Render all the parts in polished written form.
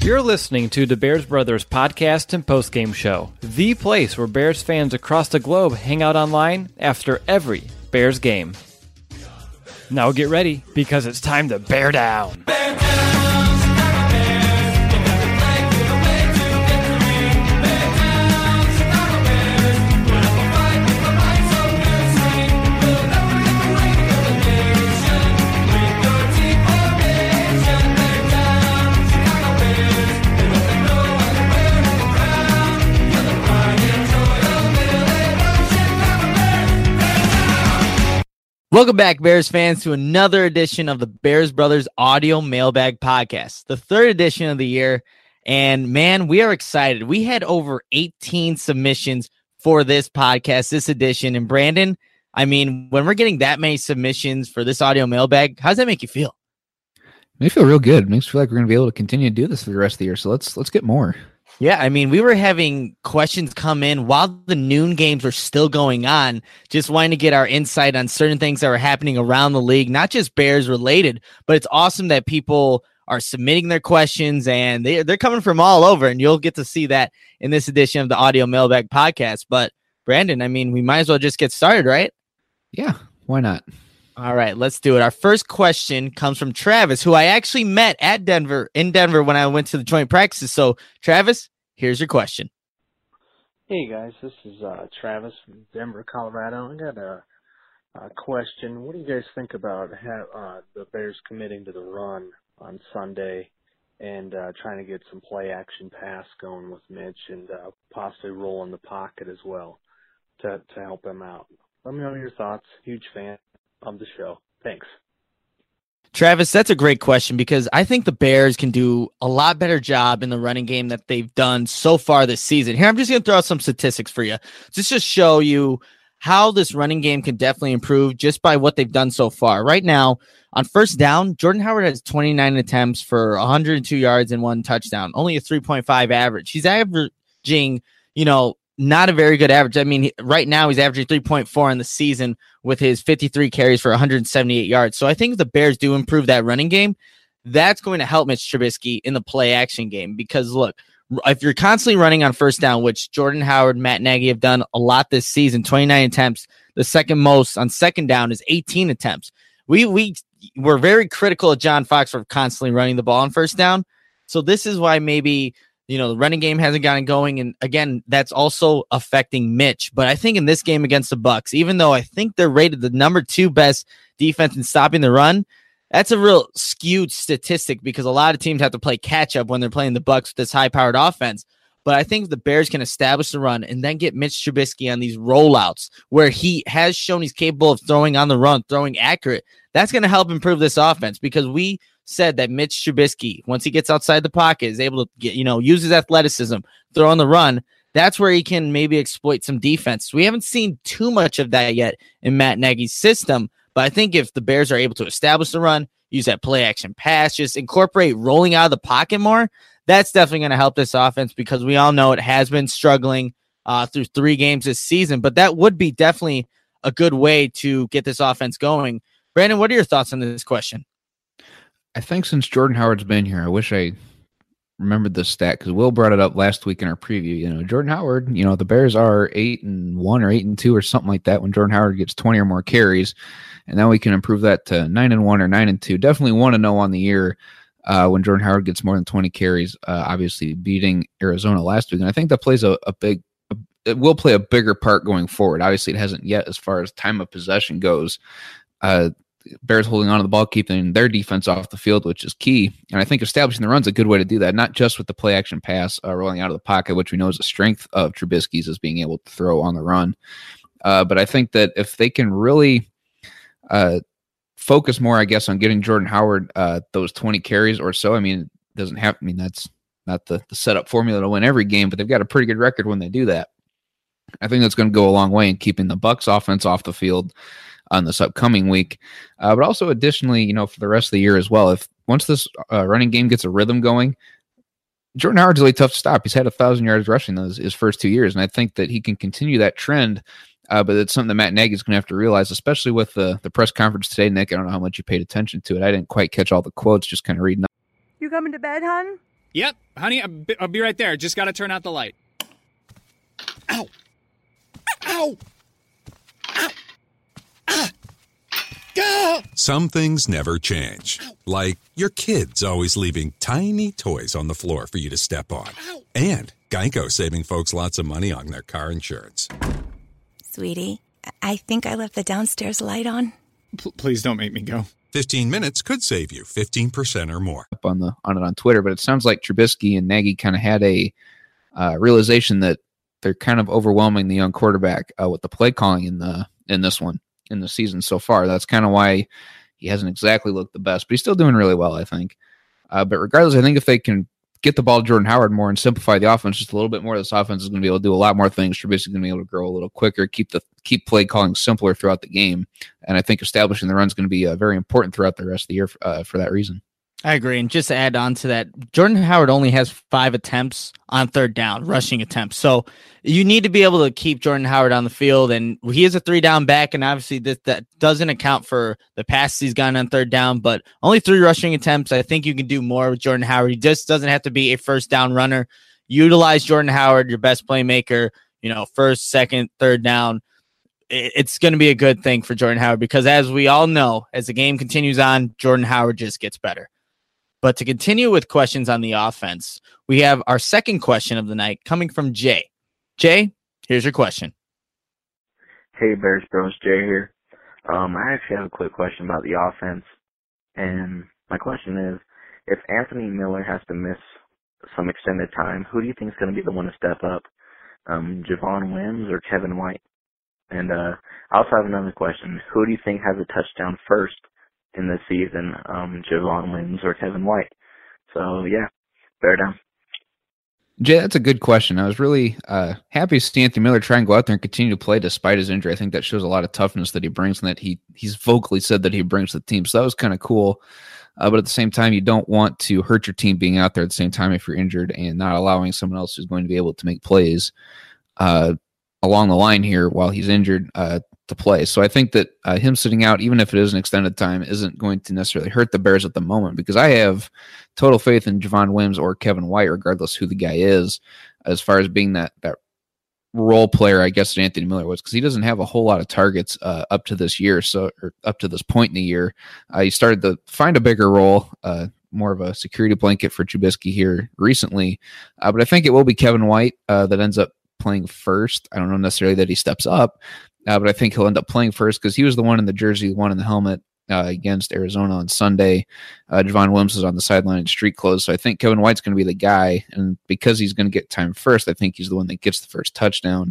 You're listening to the Bears Brothers podcast and postgame show, the place where Bears fans across the globe hang out online after every Bears game. Now get ready, because it's time to bear down. Welcome back, Bears fans, to another edition of the Bears Brothers Audio Mailbag Podcast, the third edition of the year. And man, we are excited. We had over 18 submissions for this podcast, this edition. And Brandon, I mean, when we're getting that many submissions for this audio mailbag, how does that make you feel? Makes me feel real good. Makes me feel like we're going to be able to continue to do this for the rest of the year. So let's get more. Yeah, I mean, we were having questions come in while the noon games were still going on, just wanting to get our insight on certain things that were happening around the league, not just Bears related, but it's awesome that people are submitting their questions and they're coming from all over, and you'll get to see that in this edition of the Audio Mailbag Podcast. But Brandon, I mean, we might as well just get started, right? Yeah, why not? All right, let's do it. Our first question comes from Travis, who I actually met in Denver when I went to the joint practices. So Travis, here's your question. Hey guys, this is Travis from Denver, Colorado. I got a question. What do you guys think about the Bears committing to the run on Sunday and trying to get some play action pass going with Mitch and possibly roll in the pocket as well to help him out? Let me know your thoughts. Huge fan of the show. Thanks. Travis, that's a great question, because I think the Bears can do a lot better job in the running game that they've done so far this season. Here, I'm just going to throw out some statistics for you, just to show you how this running game can definitely improve just by what they've done so far. Right now, on first down, Jordan Howard has 29 attempts for 102 yards and 1 touchdown, only a 3.5 average. He's averaging, not a very good average. I mean, right now he's averaging 3.4 in the season with his 53 carries for 178 yards. So I think if the Bears do improve that running game, that's going to help Mitch Trubisky in the play action game. Because look, if you're constantly running on first down, which Jordan Howard, Matt Nagy have done a lot this season, 29 attempts, the second most on second down is 18 attempts. We were very critical of John Fox for constantly running the ball on first down. So this is why maybe the running game hasn't gotten going. And again, that's also affecting Mitch. But I think in this game against the Bucs, even though I think they're rated the number 2 best defense in stopping the run, that's a real skewed statistic, because a lot of teams have to play catch up when they're playing the Bucs with this high powered offense. But I think the Bears can establish the run and then get Mitch Trubisky on these rollouts where he has shown he's capable of throwing on the run, throwing accurate. That's going to help improve this offense, because we said that Mitch Trubisky, once he gets outside the pocket, is able to get, use his athleticism, throw on the run. That's where he can maybe exploit some defense. We haven't seen too much of that yet in Matt Nagy's system, but I think if the Bears are able to establish the run, use that play action pass, just incorporate rolling out of the pocket more, that's definitely going to help this offense, because we all know it has been struggling through 3 games this season. But that would be definitely a good way to get this offense going. Brandon, what are your thoughts on this question? I think since Jordan Howard's been here, I wish I remembered this stat, because Will brought it up last week in our preview. Jordan Howard, the Bears are 8-1 or 8-2 or something like that when Jordan Howard gets 20 or more carries, and now we can improve that to 9-1 or 9-2. Definitely 1-0 on the year when Jordan Howard gets more than 20 carries. Obviously beating Arizona last week, and I think that plays it will play a bigger part going forward. Obviously, it hasn't yet as far as time of possession goes. Bears holding on to the ball, keeping their defense off the field, which is key. And I think establishing the run's a good way to do that, not just with the play action pass, rolling out of the pocket, which we know is a strength of Trubisky's, is being able to throw on the run. But I think that if they can really focus more, I guess, on getting Jordan Howard those 20 carries or so, that's not the setup formula to win every game, but they've got a pretty good record when they do that. I think that's going to go a long way in keeping the Bucs offense off the field on this upcoming week. But also additionally, for the rest of the year as well, if once this running game gets a rhythm going, Jordan Howard's really tough to stop. He's had 1,000 yards rushing his first 2 years, and I think that he can continue that trend. But it's something that Matt Nagy is going to have to realize, especially with the press conference today. Nick, I don't know how much you paid attention to it. I didn't quite catch all the quotes, just kind of reading. You coming to bed, hon? Yep, honey, I'll be right there. Just got to turn out the light. Ow. Ow. Ow. Ah. Go. Some things never change. Like your kids always leaving tiny toys on the floor for you to step on. And Geico saving folks lots of money on their car insurance. Sweetie, I think I left the downstairs light on. Please don't make me go. 15 minutes could save you 15% or more. Up on it on Twitter, but it sounds like Trubisky and Nagy kind of had a realization that they're kind of overwhelming the young quarterback with the play calling in the season so far. That's kind of why he hasn't exactly looked the best, but he's still doing really well, I think. But regardless, I think if they can get the ball to Jordan Howard more and simplify the offense just a little bit more, this offense is going to be able to do a lot more things. Trubisky is going to be able to grow a little quicker, keep play calling simpler throughout the game, and I think establishing the run is going to be very important throughout the rest of the year for that reason. I agree. And just to add on to that, Jordan Howard only has 5 attempts on third down, rushing attempts. So you need to be able to keep Jordan Howard on the field. And he is a 3-down back. And obviously that doesn't account for the passes he's gotten on third down, but only 3 rushing attempts. I think you can do more with Jordan Howard. He just doesn't have to be a first down runner. Utilize Jordan Howard, your best playmaker, first, second, third down. It's going to be a good thing for Jordan Howard because as we all know, as the game continues on, Jordan Howard just gets better. But to continue with questions on the offense, we have our second question of the night coming from Jay. Jay, here's your question. Hey, Bears Bros, Jay here. I actually have a quick question about the offense. And my question is, if Anthony Miller has to miss some extended time, who do you think is going to be the one to step up? Javon Wims or Kevin White? And I also have another question. Who do you think has a touchdown first in this season, Javon Wims or Kevin White? So, yeah, bear down. Jay, that's a good question. I was really happy to see Anthony Miller try and go out there and continue to play despite his injury. I think that shows a lot of toughness that he brings and that he's vocally said that he brings to the team. So that was kind of cool. But at the same time, you don't want to hurt your team being out there at the same time if you're injured and not allowing someone else who's going to be able to make plays along the line here while he's injured to play. So I think that him sitting out, even if it is an extended time, isn't going to necessarily hurt the Bears at the moment because I have total faith in Javon Wims or Kevin White, regardless who the guy is, as far as being that role player, I guess, that Anthony Miller was, because he doesn't have a whole lot of targets up to this year, or up to this point in the year. He started to find a bigger role, more of a security blanket for Trubisky here recently. But I think it will be Kevin White that ends up playing first. I don't know necessarily that he steps up, but I think he'll end up playing first because he was the one in the jersey, the one in the helmet against Arizona on Sunday. Javon Wims is on the sideline in street clothes, so I think Kevin White's going to be the guy, and because he's going to get time first, I think he's the one that gets the first touchdown.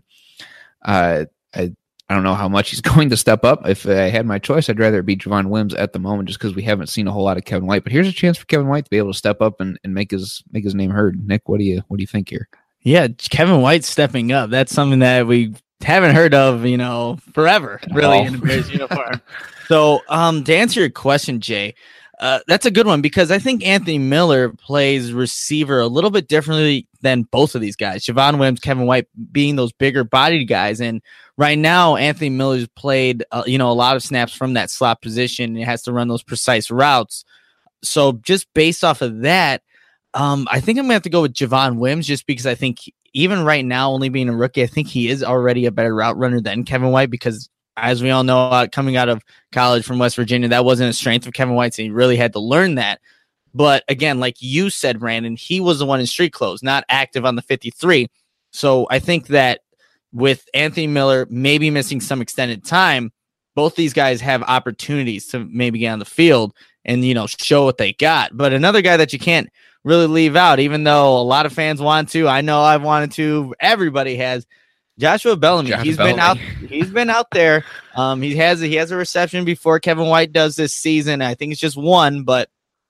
I don't know how much he's going to step up. If I had my choice, I'd rather it be Javon Wims at the moment just because we haven't seen a whole lot of Kevin White. But here's a chance for Kevin White to be able to step up and make his name heard. Nick, what do you think here? Yeah, Kevin White stepping up. That's something that we haven't heard of, forever, really, in the Bears uniform. So to answer your question, Jay, that's a good one because I think Anthony Miller plays receiver a little bit differently than both of these guys. Javon Wims, Kevin White being those bigger bodied guys. And right now, Anthony Miller's played, a lot of snaps from that slot position. It has to run those precise routes. So just based off of that, I think I'm going to have to go with Javon Wims just because I think even right now, only being a rookie, I think he is already a better route runner than Kevin White because as we all know, coming out of college from West Virginia, that wasn't a strength of Kevin White's, and he really had to learn that. But again, like you said, Brandon, he was the one in street clothes, not active on the 53. So I think that with Anthony Miller maybe missing some extended time, both these guys have opportunities to maybe get on the field and, show what they got. But another guy that you can't really leave out, even though a lot of fans want to, I know I've wanted to, everybody has, Joshua Bellamy. He's been out there. He has a reception before Kevin White does this season. I think it's just one, but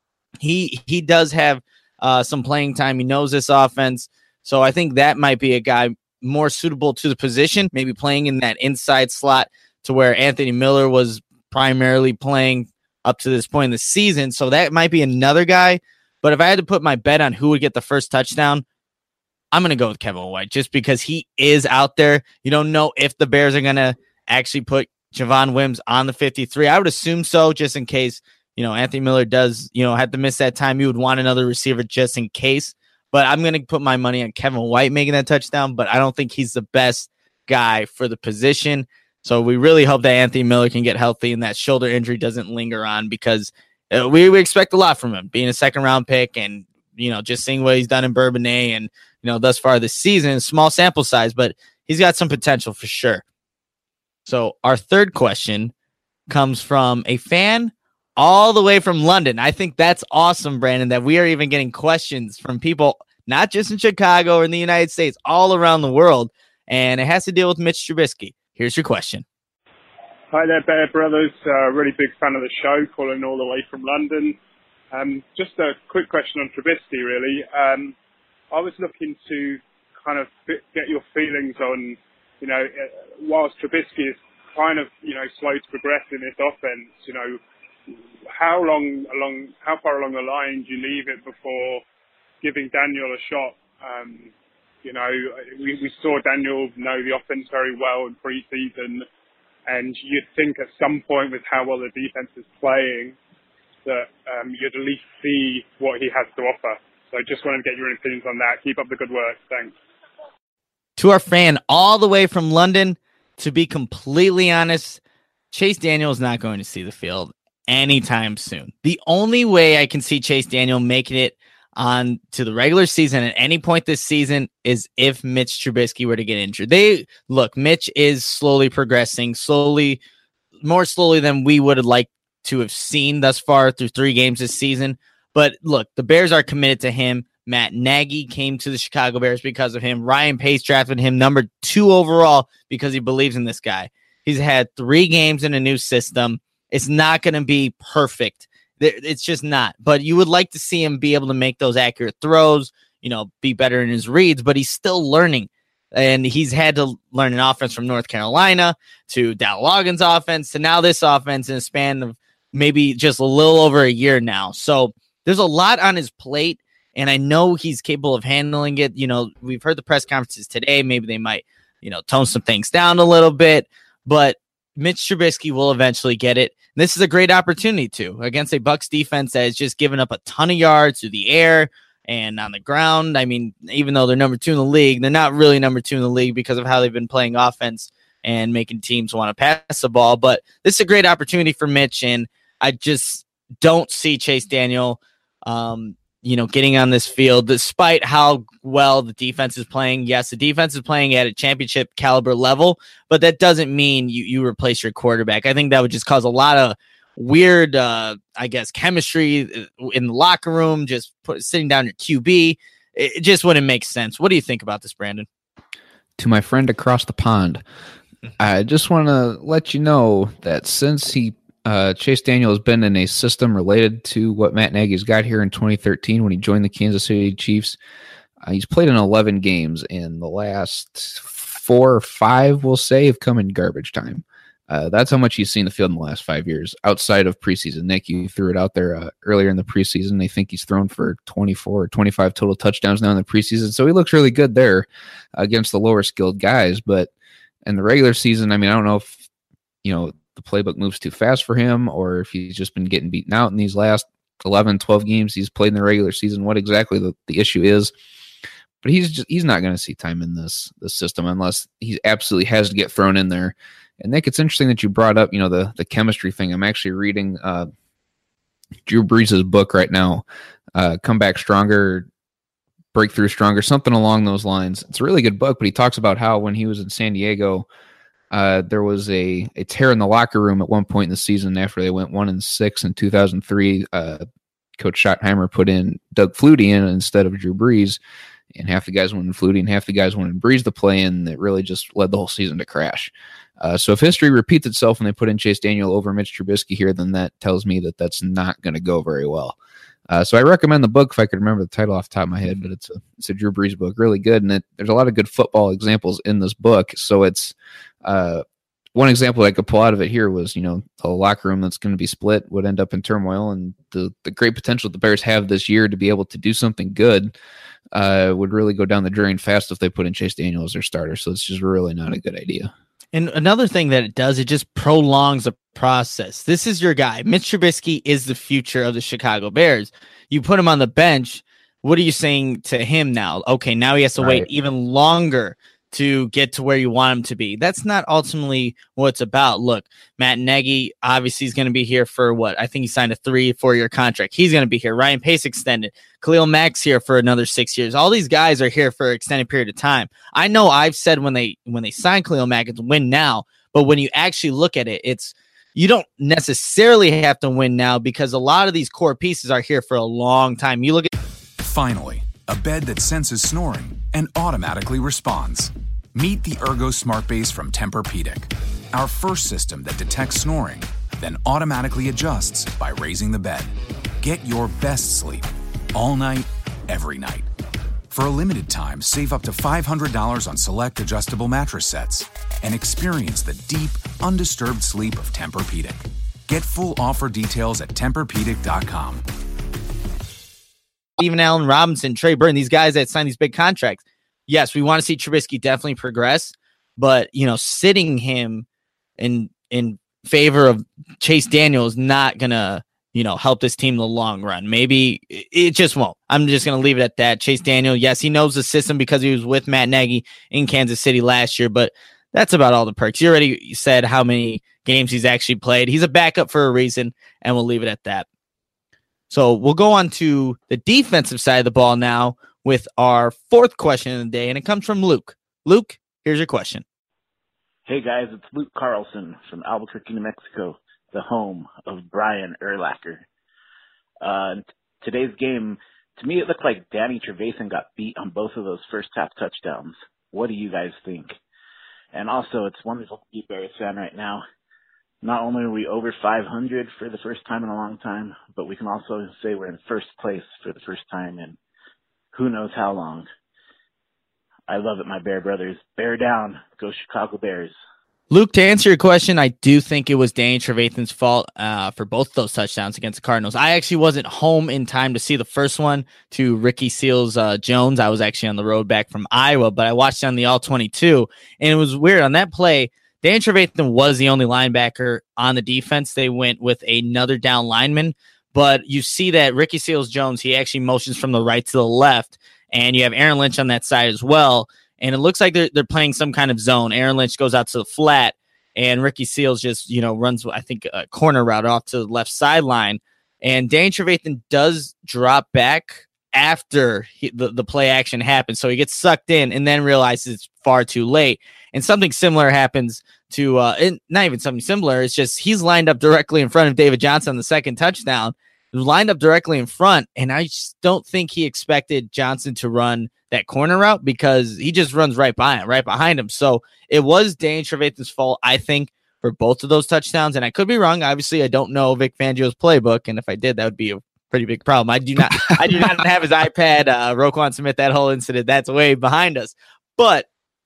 he does have some playing time. He knows this offense. So I think that might be a guy more suitable to the position, maybe playing in that inside slot to where Anthony Miller was primarily playing up to this point in the season. So that might be another guy. But if I had to put my bet on who would get the first touchdown, I'm going to go with Kevin White just because he is out there. You don't know if the Bears are going to actually put Javon Wims on the 53. I would assume so, just in case, Anthony Miller does, have to miss that time. You would want another receiver just in case. but I'm going to put my money on Kevin White making that touchdown, but I don't think he's the best guy for the position. So we really hope that Anthony Miller can get healthy and that shoulder injury doesn't linger on, because we expect a lot from him, being a second-round pick and, just seeing what he's done in Bourbonnais and, thus far this season, small sample size, but he's got some potential for sure. So our third question comes from a fan all the way from London. I think that's awesome, Brandon, that we are even getting questions from people, not just in Chicago or in the United States, all around the world. And it has to deal with Mitch Trubisky. Here's your question. Hi there, Bear Brothers. Really big fan of the show, calling all the way from London. Just a quick question on Trubisky, really. I was looking to kind of get your feelings on, whilst Trubisky is kind of, slow to progress in this offense, how far along the line do you leave it before giving Daniel a shot? We saw Daniel know the offense very well in preseason, and you'd think at some point with how well the defense is playing that you'd at least see what he has to offer. So I just wanted to get your opinions on that. Keep up the good work. Thanks. To our fan all the way from London, to be completely honest, Chase Daniel is not going to see the field anytime soon. The only way I can see Chase Daniel making it on to the regular season at any point this season is if Mitch Trubisky were to get injured. Mitch is slowly progressing, more slowly than we would have liked to have seen thus far through 3 games this season. But look, the Bears are committed to him. Matt Nagy came to the Chicago Bears because of him. Ryan Pace drafted him number 2 overall because he believes in this guy. He's had 3 games in a new system. It's not going to be perfect. It's just not. But you would like to see him be able to make those accurate throws, be better in his reads, but he's still learning. And he's had to learn an offense from North Carolina to Dow Loggins' offense to now this offense in a span of maybe just a little over a year now. So there's a lot on his plate, and I know he's capable of handling it. We've heard the press conferences today. Maybe they might, tone some things down a little bit, but Mitch Trubisky will eventually get it. This is a great opportunity against a Bucs defense that has just given up a ton of yards through the air and on the ground. I mean, even though they're number 2 in the league, they're not really number 2 in the league because of how they've been playing offense and making teams want to pass the ball. But this is a great opportunity for Mitch, and I just don't see Chase Daniel getting on this field, despite how well the defense is playing. Yes, the defense is playing at a championship caliber level, but that doesn't mean you replace your quarterback. I think that would just cause a lot of weird, chemistry in the locker room, just sitting down your QB. It just wouldn't make sense. What do you think about this, Brandon? To my friend across the pond, I just want to let you know that since Chase Daniel has been in a system related to what Matt Nagy's got here in 2013 when he joined the Kansas City Chiefs. He's played in 11 games, and the last 4 or 5, we'll say, have come in garbage time. That's how much he's seen the field in the last 5 years, outside of preseason. Nick, you threw it out there earlier in the preseason. They think he's thrown for 24 or 25 total touchdowns now in the preseason, so he looks really good there against the lower-skilled guys. But in the regular season, I don't know if, the playbook moves too fast for him, or if he's just been getting beaten out in these last 11, 12 games he's played in the regular season, what exactly the issue is. But he's not going to see time in this system unless he absolutely has to get thrown in there. And Nick, it's interesting that you brought up, the chemistry thing. I'm actually reading Drew Brees' book right now, Come Back Stronger, Breakthrough Stronger, something along those lines. It's a really good book, but he talks about how when he was in San Diego, there was a tear in the locker room at one point in the season after they went 1-6 in 2003. Coach Schottenheimer put in Doug Flutie in instead of Drew Brees, and half the guys wanted Flutie and half the guys wanted Brees to play, and it really just led the whole season to crash. So if history repeats itself and they put in Chase Daniel over Mitch Trubisky here, then that tells me that that's not going to go very well. So I recommend the book if I could remember the title off the top of my head, but it's a Drew Brees book, really good, and there's a lot of good football examples in this book. So it's one example I could pull out of it here was, the locker room that's going to be split would end up in turmoil, and the great potential the Bears have this year to be able to do something good would really go down the drain fast if they put in Chase Daniel as their starter. So it's just really not a good idea. And another thing that it does, it just prolongs the process. This is your guy. Mitch Trubisky is the future of the Chicago Bears. You put him on the bench, what are you saying to him now? Okay, now he has to wait even longer to get to where you want him to be. That's not ultimately what it's about. Look, Matt Nagy obviously is going to be here for what? I think he signed a 3-4 year contract. He's going to be here. Ryan Pace extended. Khalil Mack's here for another 6 years. All these guys are here for an extended period of time. I know I've said when they signed Khalil Mack, it's win now. But when you actually look at it, you don't necessarily have to win now because a lot of these core pieces are here for a long time. You look at Finally, a bed that senses snoring and automatically responds. Meet the Ergo Smart Base from Tempur-Pedic, our first system that detects snoring, then automatically adjusts by raising the bed. Get your best sleep all night, every night. For a limited time, save up to $500 on select adjustable mattress sets and experience the deep, undisturbed sleep of Tempur-Pedic. Get full offer details at TempurPedic.com. Even Allen Robinson, Trey Burton, these guys that sign these big contracts. Yes, we want to see Trubisky definitely progress, but sitting him in favor of Chase Daniel is not gonna help this team in the long run. Maybe it just won't. I'm just gonna leave it at that. Chase Daniel, yes, he knows the system because he was with Matt Nagy in Kansas City last year, but that's about all the perks. You already said how many games he's actually played. He's a backup for a reason, and we'll leave it at that. So we'll go on to the defensive side of the ball now with our fourth question of the day, and it comes from Luke. Luke, here's your question. Hey, guys, it's Luke Carlson from Albuquerque, New Mexico, the home of Brian Urlacher. Today's game, to me, it looked like Danny Trevathan got beat on both of those first-half touchdowns. What do you guys think? And also, it's wonderful to be a Bears fan right now. Not only are we over 500 for the first time in a long time, but we can also say we're in first place for the first time in who knows how long. I love it, my Bear brothers. Bear down. Go Chicago Bears. Luke, to answer your question, I do think it was Danny Trevathan's fault for both those touchdowns against the Cardinals. I actually wasn't home in time to see the first one to Ricky Seals-Jones. I was actually on the road back from Iowa, but I watched it on the All-22, and it was weird. On that play, Danny Trevathan was the only linebacker on the defense. They went with another down lineman, but you see that Ricky Seals-Jones, he actually motions from the right to the left, and you have Aaron Lynch on that side as well. And it looks like they're playing some kind of zone. Aaron Lynch goes out to the flat, and Ricky Seals just, runs, I think, a corner route off to the left sideline. And Danny Trevathan does drop back after the play action happens. So he gets sucked in and then realizes it's far too late. And something similar happens to, not even something similar, it's just he's lined up directly in front of David Johnson on the second touchdown. He was lined up directly in front, and I just don't think he expected Johnson to run that corner route because he just runs right behind him. So it was Danny Trevathan's fault, I think, for both of those touchdowns. And I could be wrong. Obviously, I don't know Vic Fangio's playbook, and if I did, that would be a pretty big problem. I do not have his iPad. Roquan Smith, that whole incident, that's way behind us. But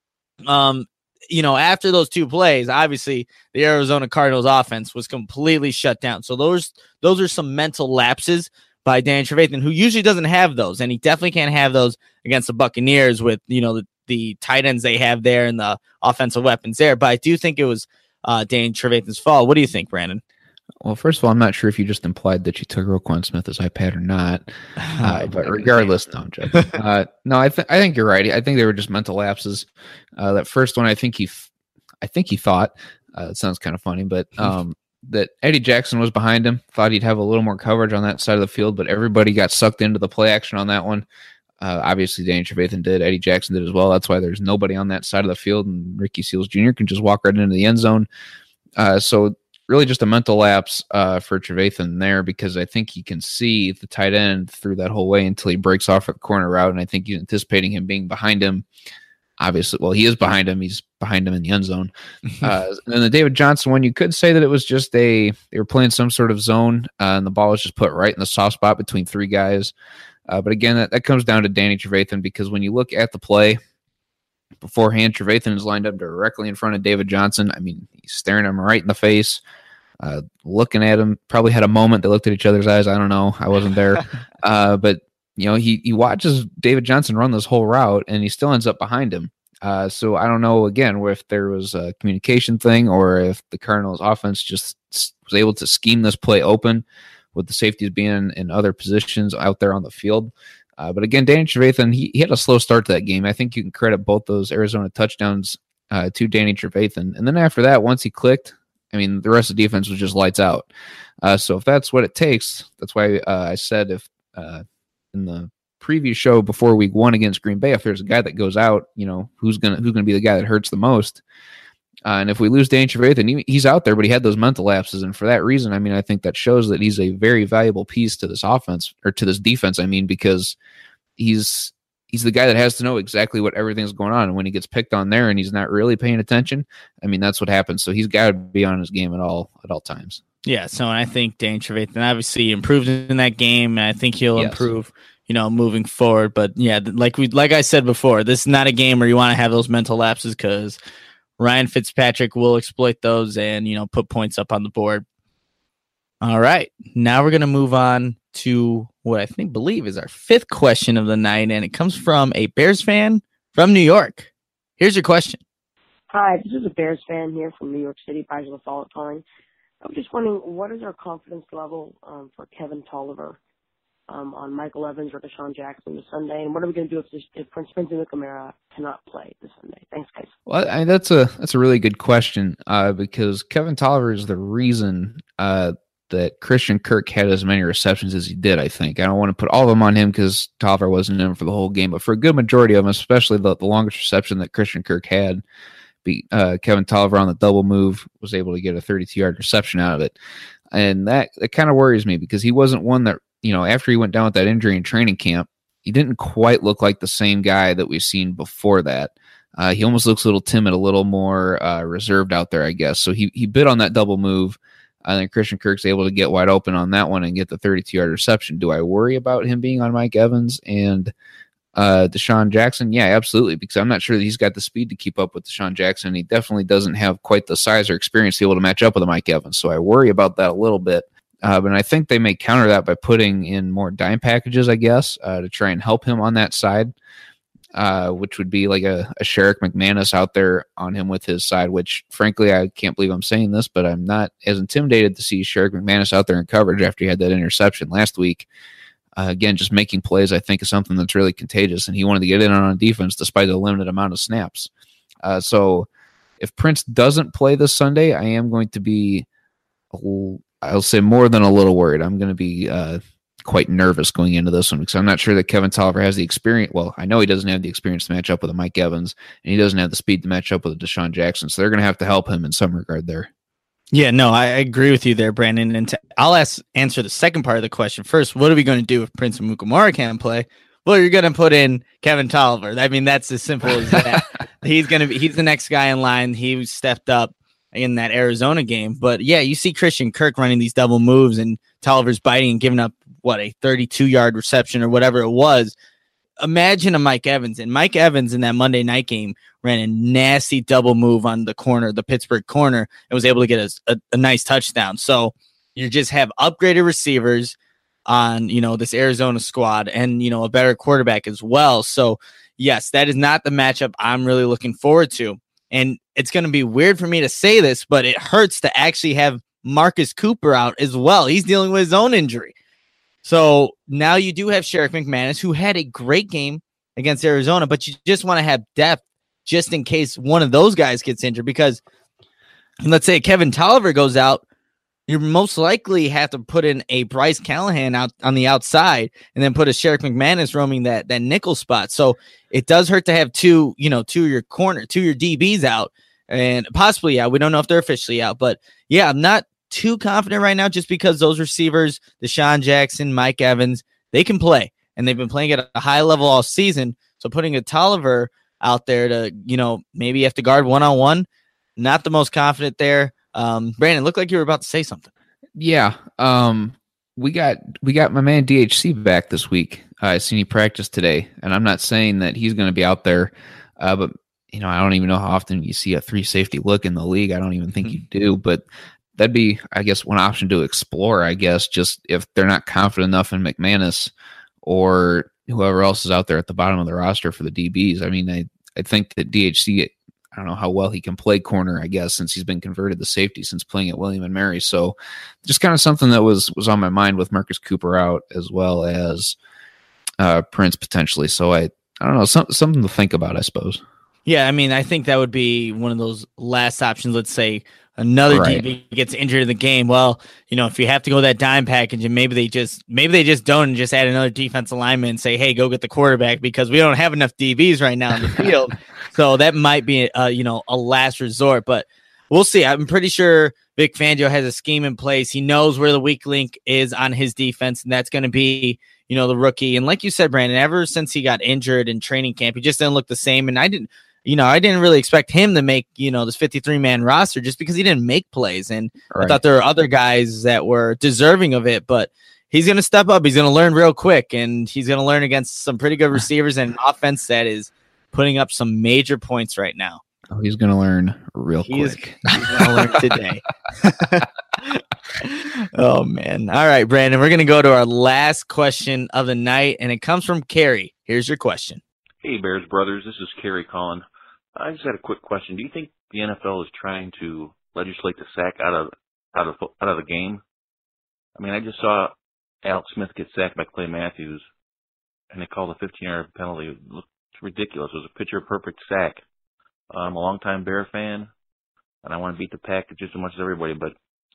after those two plays, obviously the Arizona Cardinals offense was completely shut down. So those are some mental lapses by Danny Trevathan, who usually doesn't have those, and he definitely can't have those against the Buccaneers with the tight ends they have there and the offensive weapons there. But I do think it was Danny Trevathan's fault. What do you think, Brandon? Well, first of all, I'm not sure if you just implied that you took Roquan Smith's iPad or not. But regardless, no, I'm joking. No, I think you're right. I think they were just mental lapses. That first one, I think he thought. It sounds kind of funny, but that Eddie Jackson was behind him. Thought he'd have a little more coverage on that side of the field, but everybody got sucked into the play action on that one. Obviously, Danny Trevathan did. Eddie Jackson did as well. That's why there's nobody on that side of the field, and Ricky Seals Jr. can just walk right into the end zone. So really just a mental lapse for Trevathan there, because I think he can see the tight end through that whole way until he breaks off a corner route, and I think he's anticipating him being behind him. Obviously, well, he is behind him. He's behind him in the end zone. And then the David Johnson one, you could say that it was just they were playing some sort of zone, and the ball was just put right in the soft spot between three guys. But again, that comes down to Danny Trevathan, because when you look at the play beforehand, Trevathan is lined up directly in front of David Johnson. I mean, he's staring him right in the face, looking at him. Probably had a moment. They looked at each other's eyes. I don't know. I wasn't there. But he watches David Johnson run this whole route, and he still ends up behind him. So I don't know, again, if there was a communication thing or if the Cardinals offense just was able to scheme this play open with the safeties being in other positions out there on the field. But again, Danny Trevathan, he had a slow start to that game. I think you can credit both those Arizona touchdowns to Danny Trevathan. And then after that, once he clicked, I mean, the rest of the defense was just lights out. So if that's what it takes, that's why I said if in the preview show before week 1 against Green Bay, if there's a guy that goes out, who's gonna be the guy that hurts the most. And if we lose Danny Trevathan, he's out there, but he had those mental lapses. And for that reason, I mean, I think that shows that he's a very valuable piece to this offense, or to this defense, I mean, because he's the guy that has to know exactly what everything's going on. And when he gets picked on there and he's not really paying attention, I mean, that's what happens. So he's got to be on his game at all times. Yeah, so I think Danny Trevathan obviously improved in that game, and I think he'll improve, moving forward. But yeah, like I said before, this is not a game where you want to have those mental lapses, because Ryan Fitzpatrick will exploit those and, put points up on the board. All right. Now we're going to move on to what I believe is our 5th question of the night, and it comes from a Bears fan from New York. Here's your question. Hi, this is a Bears fan here from New York City, Prizes of Fall calling. I'm just wondering, what is our confidence level for Kevin Tolliver on Michael Evans or Deshaun Jackson this Sunday, and what are we going to do if Prince McNamara cannot play this Sunday? Thanks, guys. Well, that's a really good question because Kevin Tolliver is the reason that Christian Kirk had as many receptions as he did. I think I don't want to put all of them on him because Tolliver wasn't in for the whole game, but for a good majority of them, especially the longest reception that Christian Kirk had, Kevin Tolliver on the double move was able to get a 32-yard reception out of it, and that kind of worries me because he wasn't one that, after he went down with that injury in training camp, he didn't quite look like the same guy that we've seen before that. He almost looks a little timid, a little more reserved out there, I guess. So he bit on that double move. I think Christian Kirk's able to get wide open on that one and get the 32-yard reception. Do I worry about him being on Mike Evans and Deshaun Jackson? Yeah, absolutely, because I'm not sure that he's got the speed to keep up with Deshaun Jackson. He definitely doesn't have quite the size or experience to be able to match up with a Mike Evans. So I worry about that a little bit. But I think they may counter that by putting in more dime packages, I guess, to try and help him on that side, which would be like a Sherrick McManus out there on him with his side, which, frankly, I can't believe I'm saying this, but I'm not as intimidated to see Sherrick McManus out there in coverage after he had that interception last week. Again, just making plays, I think, is something that's really contagious, and he wanted to get in on defense despite the limited amount of snaps. So if Prince doesn't play this Sunday, I am going to be, I'll say, more than a little worried. I'm going to be quite nervous going into this one because I'm not sure that Kevin Tolliver has the experience. Well, I know he doesn't have the experience to match up with a Mike Evans, and he doesn't have the speed to match up with a Deshaun Jackson, so they're going to have to help him in some regard there. Yeah, no, I agree with you there, Brandon. And I'll answer the second part of the question first. What are we going to do if Prince Amukamara can't play? Well, you're going to put in Kevin Tolliver. I mean, that's as simple as that. He's the next guy in line. He stepped up in that Arizona game. But yeah, you see Christian Kirk running these double moves and Tolliver's biting and giving up a 32-yard reception or whatever it was. Imagine a Mike Evans, and Mike Evans in that Monday night game ran a nasty double move on the corner, the Pittsburgh corner, and was able to get a nice touchdown. So you just have upgraded receivers on, this Arizona squad and, a better quarterback as well. So yes, that is not the matchup I'm really looking forward to. And it's going to be weird for me to say this, but it hurts to actually have Marcus Cooper out as well. He's dealing with his own injury. So now you do have Sherrick McManus, who had a great game against Arizona, but you just want to have depth just in case one of those guys gets injured. Because let's say Kevin Tolliver goes out, you most likely have to put in a Bryce Callahan out on the outside and then put a Sherrick McManus roaming that nickel spot. So it does hurt to have two of your DBs out, and possibly, we don't know if they're officially out, but yeah, I'm not too confident right now just because those receivers, Deshaun Jackson, Mike Evans, they can play, and they've been playing at a high level all season. So putting a Tolliver out there to, maybe you have to guard one-on-one, not the most confident there. Brandon, looked like you were about to say something. Yeah. We got my man DHC back this week. I seen he practiced today, and I'm not saying that he's going to be out there, but I don't even know how often you see a 3 safety look in the league. I don't even think you do, but that'd be, I guess, one option to explore, I guess, just if they're not confident enough in McManus or whoever else is out there at the bottom of the roster for the DBs. I mean, I think that DHC, I don't know how well he can play corner, I guess, since he's been converted to safety since playing at William & Mary. So just kind of something that was on my mind with Marcus Cooper out, as well as Prince potentially. So I don't know, something to think about, I suppose. Yeah, I mean, I think that would be one of those last options. Let's say another Right. DB gets injured in the game. Well, if you have to go that dime package, and maybe they just don't, and just add another defensive lineman and say, hey, go get the quarterback, because we don't have enough DBs right now in the field. So that might be a last resort, but we'll see. I'm pretty sure Vic Fangio has a scheme in place. He knows where the weak link is on his defense, and that's going to be the rookie. And like you said, Brandon, ever since he got injured in training camp, he just didn't look the same. And I didn't really expect him to make, this 53-man roster just because he didn't make plays. And Right. I thought there were other guys that were deserving of it, but he's going to step up. He's going to learn real quick, and he's going to learn against some pretty good receivers and an offense that is putting up some major points right now. Oh, he's going to learn real quick. He's going to learn today. Oh, man. All right, Brandon, we're going to go to our last question of the night, and it comes from Carrie. Here's your question. Hey, Bears Brothers. This is Kerry calling. I just had a quick question. Do you think the NFL is trying to legislate the sack out of the game? I mean, I just saw Alex Smith get sacked by Clay Matthews, and they called a 15-yard penalty. It looked ridiculous. It was a picture-perfect sack. I'm a longtime Bear fan, and I want to beat the Pack just as much as everybody, but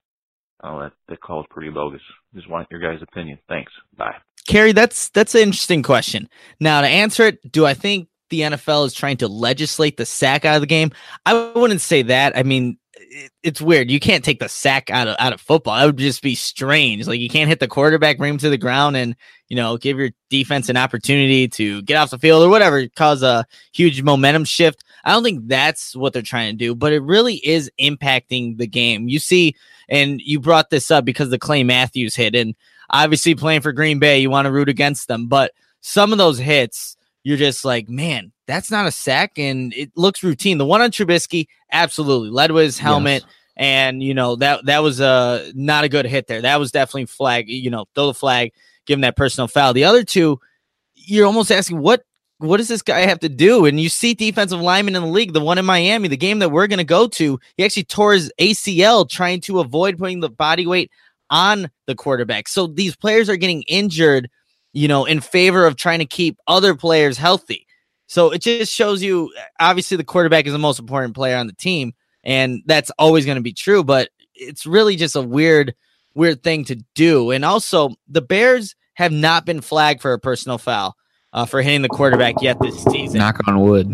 that call is pretty bogus. Just want your guys' opinion. Thanks. Bye. Carrie, that's an interesting question. Now, to answer it, do I think the NFL is trying to legislate the sack out of the game? I wouldn't say that. I mean, it's weird. You can't take the sack out of football. That would just be strange. Like, you can't hit the quarterback, bring him to the ground, and give your defense an opportunity to get off the field or whatever, cause a huge momentum shift. I don't think that's what they're trying to do, but it really is impacting the game. You see, and you brought this up because the Clay Matthews hit, and obviously playing for Green Bay, you want to root against them, but some of those hits, you're just like, man, that's not a sack, and it looks routine. The one on Trubisky, absolutely led with his helmet, yes. And that was not a good hit there. That was definitely flag. Throw the flag, give him that personal foul. The other two, you're almost asking, what does this guy have to do? And you see defensive linemen in the league. The one in Miami, the game that we're going to go to, he actually tore his ACL trying to avoid putting the body weight on the quarterback. So these players are getting injured, in favor of trying to keep other players healthy. So it just shows you, obviously the quarterback is the most important player on the team, and that's always going to be true, but it's really just a weird thing to do. And also, the Bears have not been flagged for a personal foul for hitting the quarterback yet this season. Knock on wood,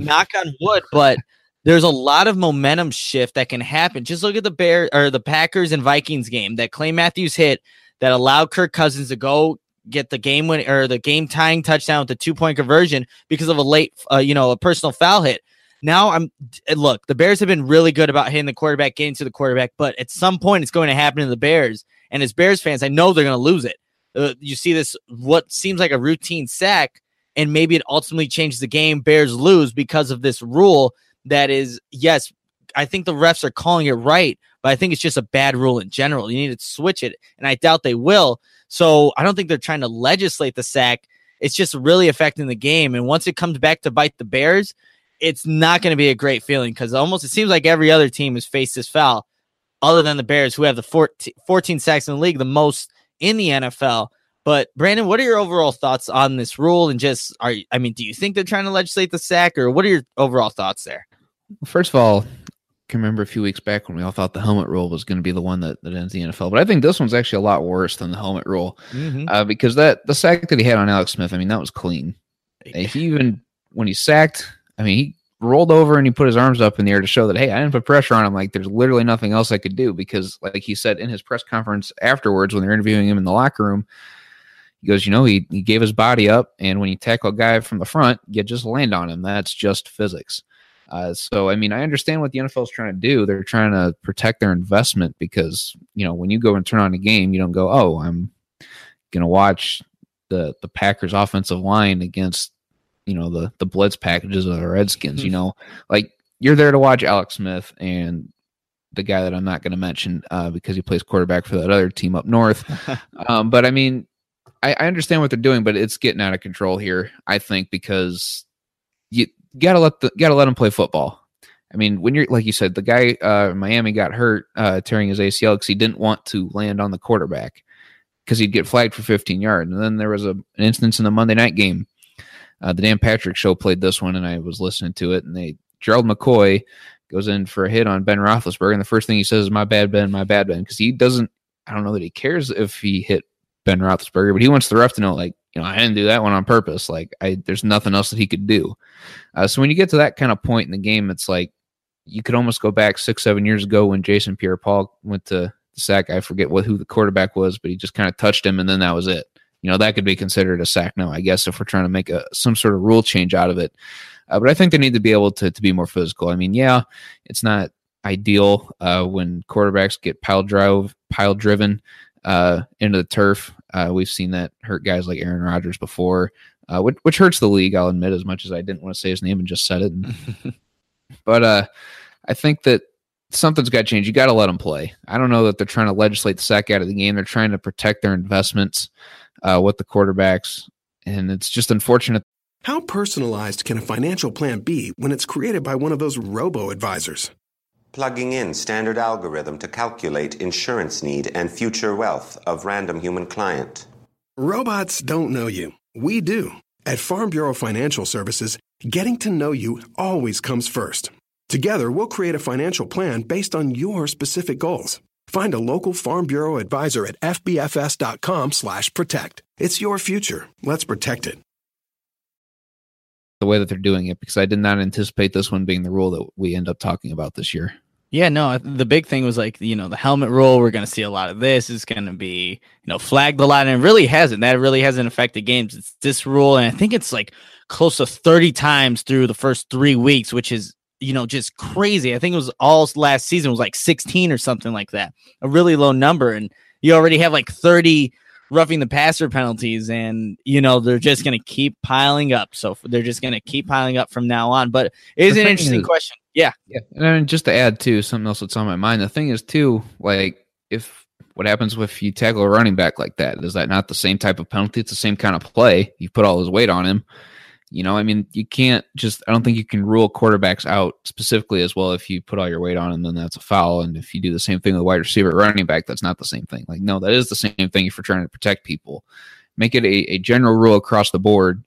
but there's a lot of momentum shift that can happen. Just look at the Packers and Vikings game that Clay Matthews hit that allowed Kirk Cousins to go get the game win or the game tying touchdown with the 2-point conversion because of a late, a personal foul hit. Now the Bears have been really good about hitting the quarterback, getting to the quarterback, but at some point it's going to happen to the Bears. And as Bears fans, I know they're going to lose it. You see this, what seems like a routine sack, and maybe it ultimately changes the game. Bears lose because of this rule that is, yes, I think the refs are calling it right, but I think it's just a bad rule in general. You need to switch it, and I doubt they will. So I don't think they're trying to legislate the sack. It's just really affecting the game. And once it comes back to bite the Bears, it's not going to be a great feeling because it seems like every other team has faced this foul other than the Bears, who have the 14 sacks in the league, the most in the NFL. But Brandon, what are your overall thoughts on this rule? And do you think they're trying to legislate the sack, or what are your overall thoughts there? First of all, I can remember a few weeks back when we all thought the helmet rule was going to be the one that ends the NFL. But I think this one's actually a lot worse than the helmet rule because the sack that he had on Alex Smith, that was clean. When he sacked, he rolled over and he put his arms up in the air to show that, hey, I didn't put pressure on him. Like, there's literally nothing else I could do because, like he said in his press conference afterwards when they're interviewing him in the locker room, he goes, he gave his body up, and when you tackle a guy from the front, you just land on him. That's just physics. So, I understand what the NFL is trying to do. They're trying to protect their investment because, when you go and turn on a game, you don't go, oh, I'm going to watch the Packers offensive line against, the blitz packages of the Redskins, like you're there to watch Alex Smith and the guy that I'm not going to mention because he plays quarterback for that other team up north. But I understand what they're doing, but it's getting out of control here, I think, because you gotta let them play football. When you're, like you said, the guy in Miami got hurt tearing his ACL because he didn't want to land on the quarterback. because he'd get flagged for 15 yards. And then there was an instance in the Monday night game. The Dan Patrick Show played this one, and I was listening to it, and Gerald McCoy goes in for a hit on Ben Roethlisberger, and the first thing he says is, my bad, Ben, because he doesn't, I don't know that he cares if he hit Ben Roethlisberger, but he wants the ref to know, like, I didn't do that one on purpose. Like, there's nothing else that he could do. So when you get to that kind of point in the game, it's like you could almost go back 6-7 years ago when Jason Pierre-Paul went to the sack. I forget who the quarterback was, but he just kind of touched him, and then that was it. That could be considered a sack now, I guess, if we're trying to make some sort of rule change out of it. But I think they need to be able to be more physical. I mean, yeah, it's not ideal when quarterbacks get pile driven into the turf. We've seen that hurt guys like Aaron Rodgers before, which hurts the league, I'll admit, as much as I didn't want to say his name and just said it. But I think that something's got to change. You got to let them play. I don't know that they're trying to legislate the sack out of the game. They're trying to protect their investments with the quarterbacks, and it's just unfortunate. How personalized can a financial plan be when it's created by one of those robo-advisors? Plugging in standard algorithm to calculate insurance need and future wealth of random human client. Robots don't know you. We do. At Farm Bureau Financial Services, getting to know you always comes first. Together, we'll create a financial plan based on your specific goals. Find a local Farm Bureau advisor at fbfs.com/protect. It's your future. Let's protect it. The way that they're doing it, because I did not anticipate this one being the rule that we end up talking about this year. Yeah, no, the big thing was like, the helmet rule. We're going to see a lot of this. It's going to be, flagged a lot, and it really hasn't. That really hasn't affected games. It's this rule, and I think it's like close to 30 times through the first 3 weeks, which is, just crazy. I think it was all last season was like 16 or something like that. A really low number, and you already have like 30 roughing the passer penalties, and they're just going to keep piling up. So they're just going to keep piling up from now on. But it is an interesting question. Yeah. And just to add to something else that's on my mind, the thing is too, like, what happens if you tackle a running back like that? Is that not the same type of penalty? It's the same kind of play. You put all his weight on him. I mean, you can't I don't think you can rule quarterbacks out specifically as well. If you put all your weight on him, then that's a foul. And if you do the same thing with a wide receiver, running back, that's not the same thing. Like, no, that is the same thing if you're trying to protect people. Make it a general rule across the board,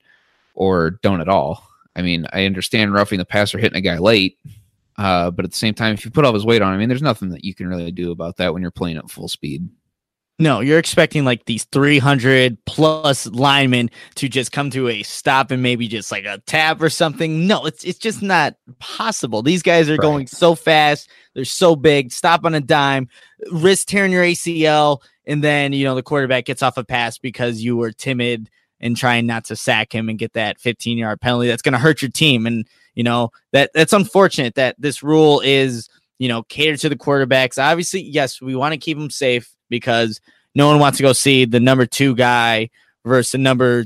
or don't at all. I mean, I understand roughing the passer, hitting a guy late, but at the same time, if you put all his weight on him, I mean, there's nothing that you can really do about that when you're playing at full speed. No, you're expecting like these 300 plus linemen to just come to a stop and maybe just like a tap or something. No, it's just not possible. These guys are going so fast. They're so big. Stop on a dime, risk tearing your ACL, and then, the quarterback gets off a pass because you were timid and trying not to sack him and get that 15-yard penalty. That's going to hurt your team. And, that's unfortunate that this rule is, catered to the quarterbacks. Obviously, yes, we want to keep them safe, because no one wants to go see the number 2 guy versus the number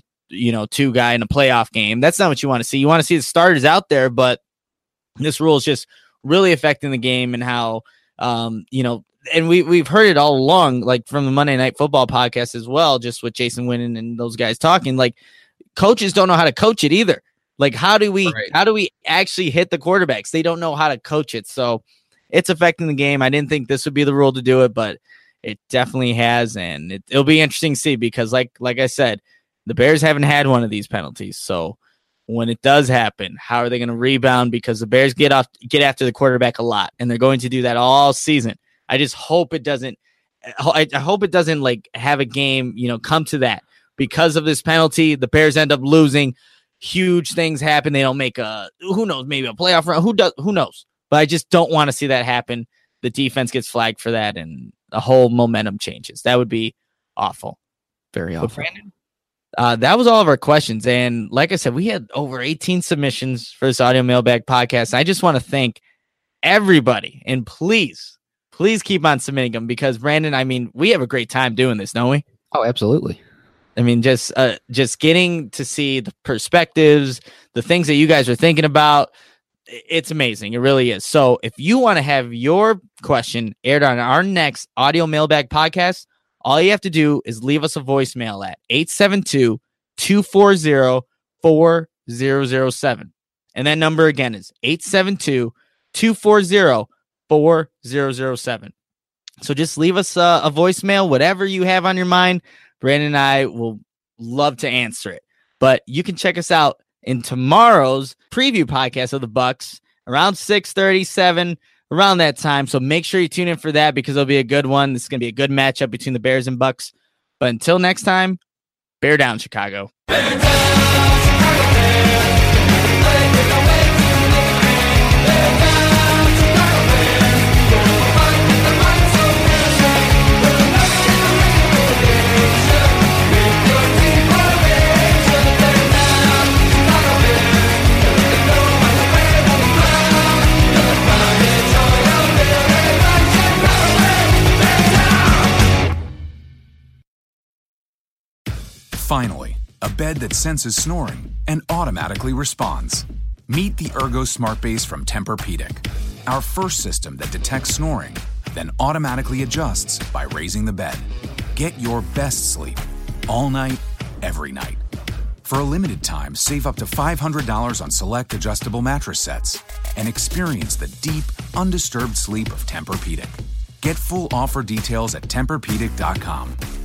2 guy in a playoff game. That's not what you want to see. You want to see the starters out there, but this rule is just really affecting the game, and how, and we've heard it all along, like from the Monday Night Football podcast as well, just with Jason Witten and those guys talking, like coaches don't know how to coach it either. Like, how do we actually hit the quarterbacks? They don't know how to coach it. So it's affecting the game. I didn't think this would be the rule to do it, but it definitely has, and it'll be interesting to see, because like I said, the Bears haven't had one of these penalties. So when it does happen, how are they going to rebound? Because the Bears get after the quarterback a lot, and they're going to do that all season. I just hope it doesn't. I hope it doesn't like have a game, come to that because of this penalty. The Bears end up losing. Huge things happen. They don't make who knows, maybe a playoff run. Who knows? But I just don't want to see that happen. The defense gets flagged for that, and the whole momentum changes. That would be awful. Very awful. But Brandon, that was all of our questions. And like I said, we had over 18 submissions for this audio mailbag podcast. I just want to thank everybody. And please keep on submitting them, because Brandon, I mean, we have a great time doing this, don't we? Oh, absolutely. I mean, just getting to see the perspectives, the things that you guys are thinking about. It's amazing. It really is. So if you want to have your question aired on our next audio mailbag podcast, all you have to do is leave us a voicemail at 872-240-4007. And that number again is 872-240-4007. So just leave us a voicemail, whatever you have on your mind. Brandon and I will love to answer it. But you can check us out in tomorrow's preview podcast of the Bucks around 6:37, around that time. So make sure you tune in for that because it'll be a good one. This is going to be a good matchup between the Bears and Bucks. But until next time, bear down, Chicago. Bear down, Chicago Bears. Finally, a bed that senses snoring and automatically responds. Meet the Ergo Smart Base from Tempur-Pedic, our first system that detects snoring, then automatically adjusts by raising the bed. Get your best sleep all night, every night. For a limited time, save up to $500 on select adjustable mattress sets and experience the deep, undisturbed sleep of Tempur-Pedic. Get full offer details at TempurPedic.com.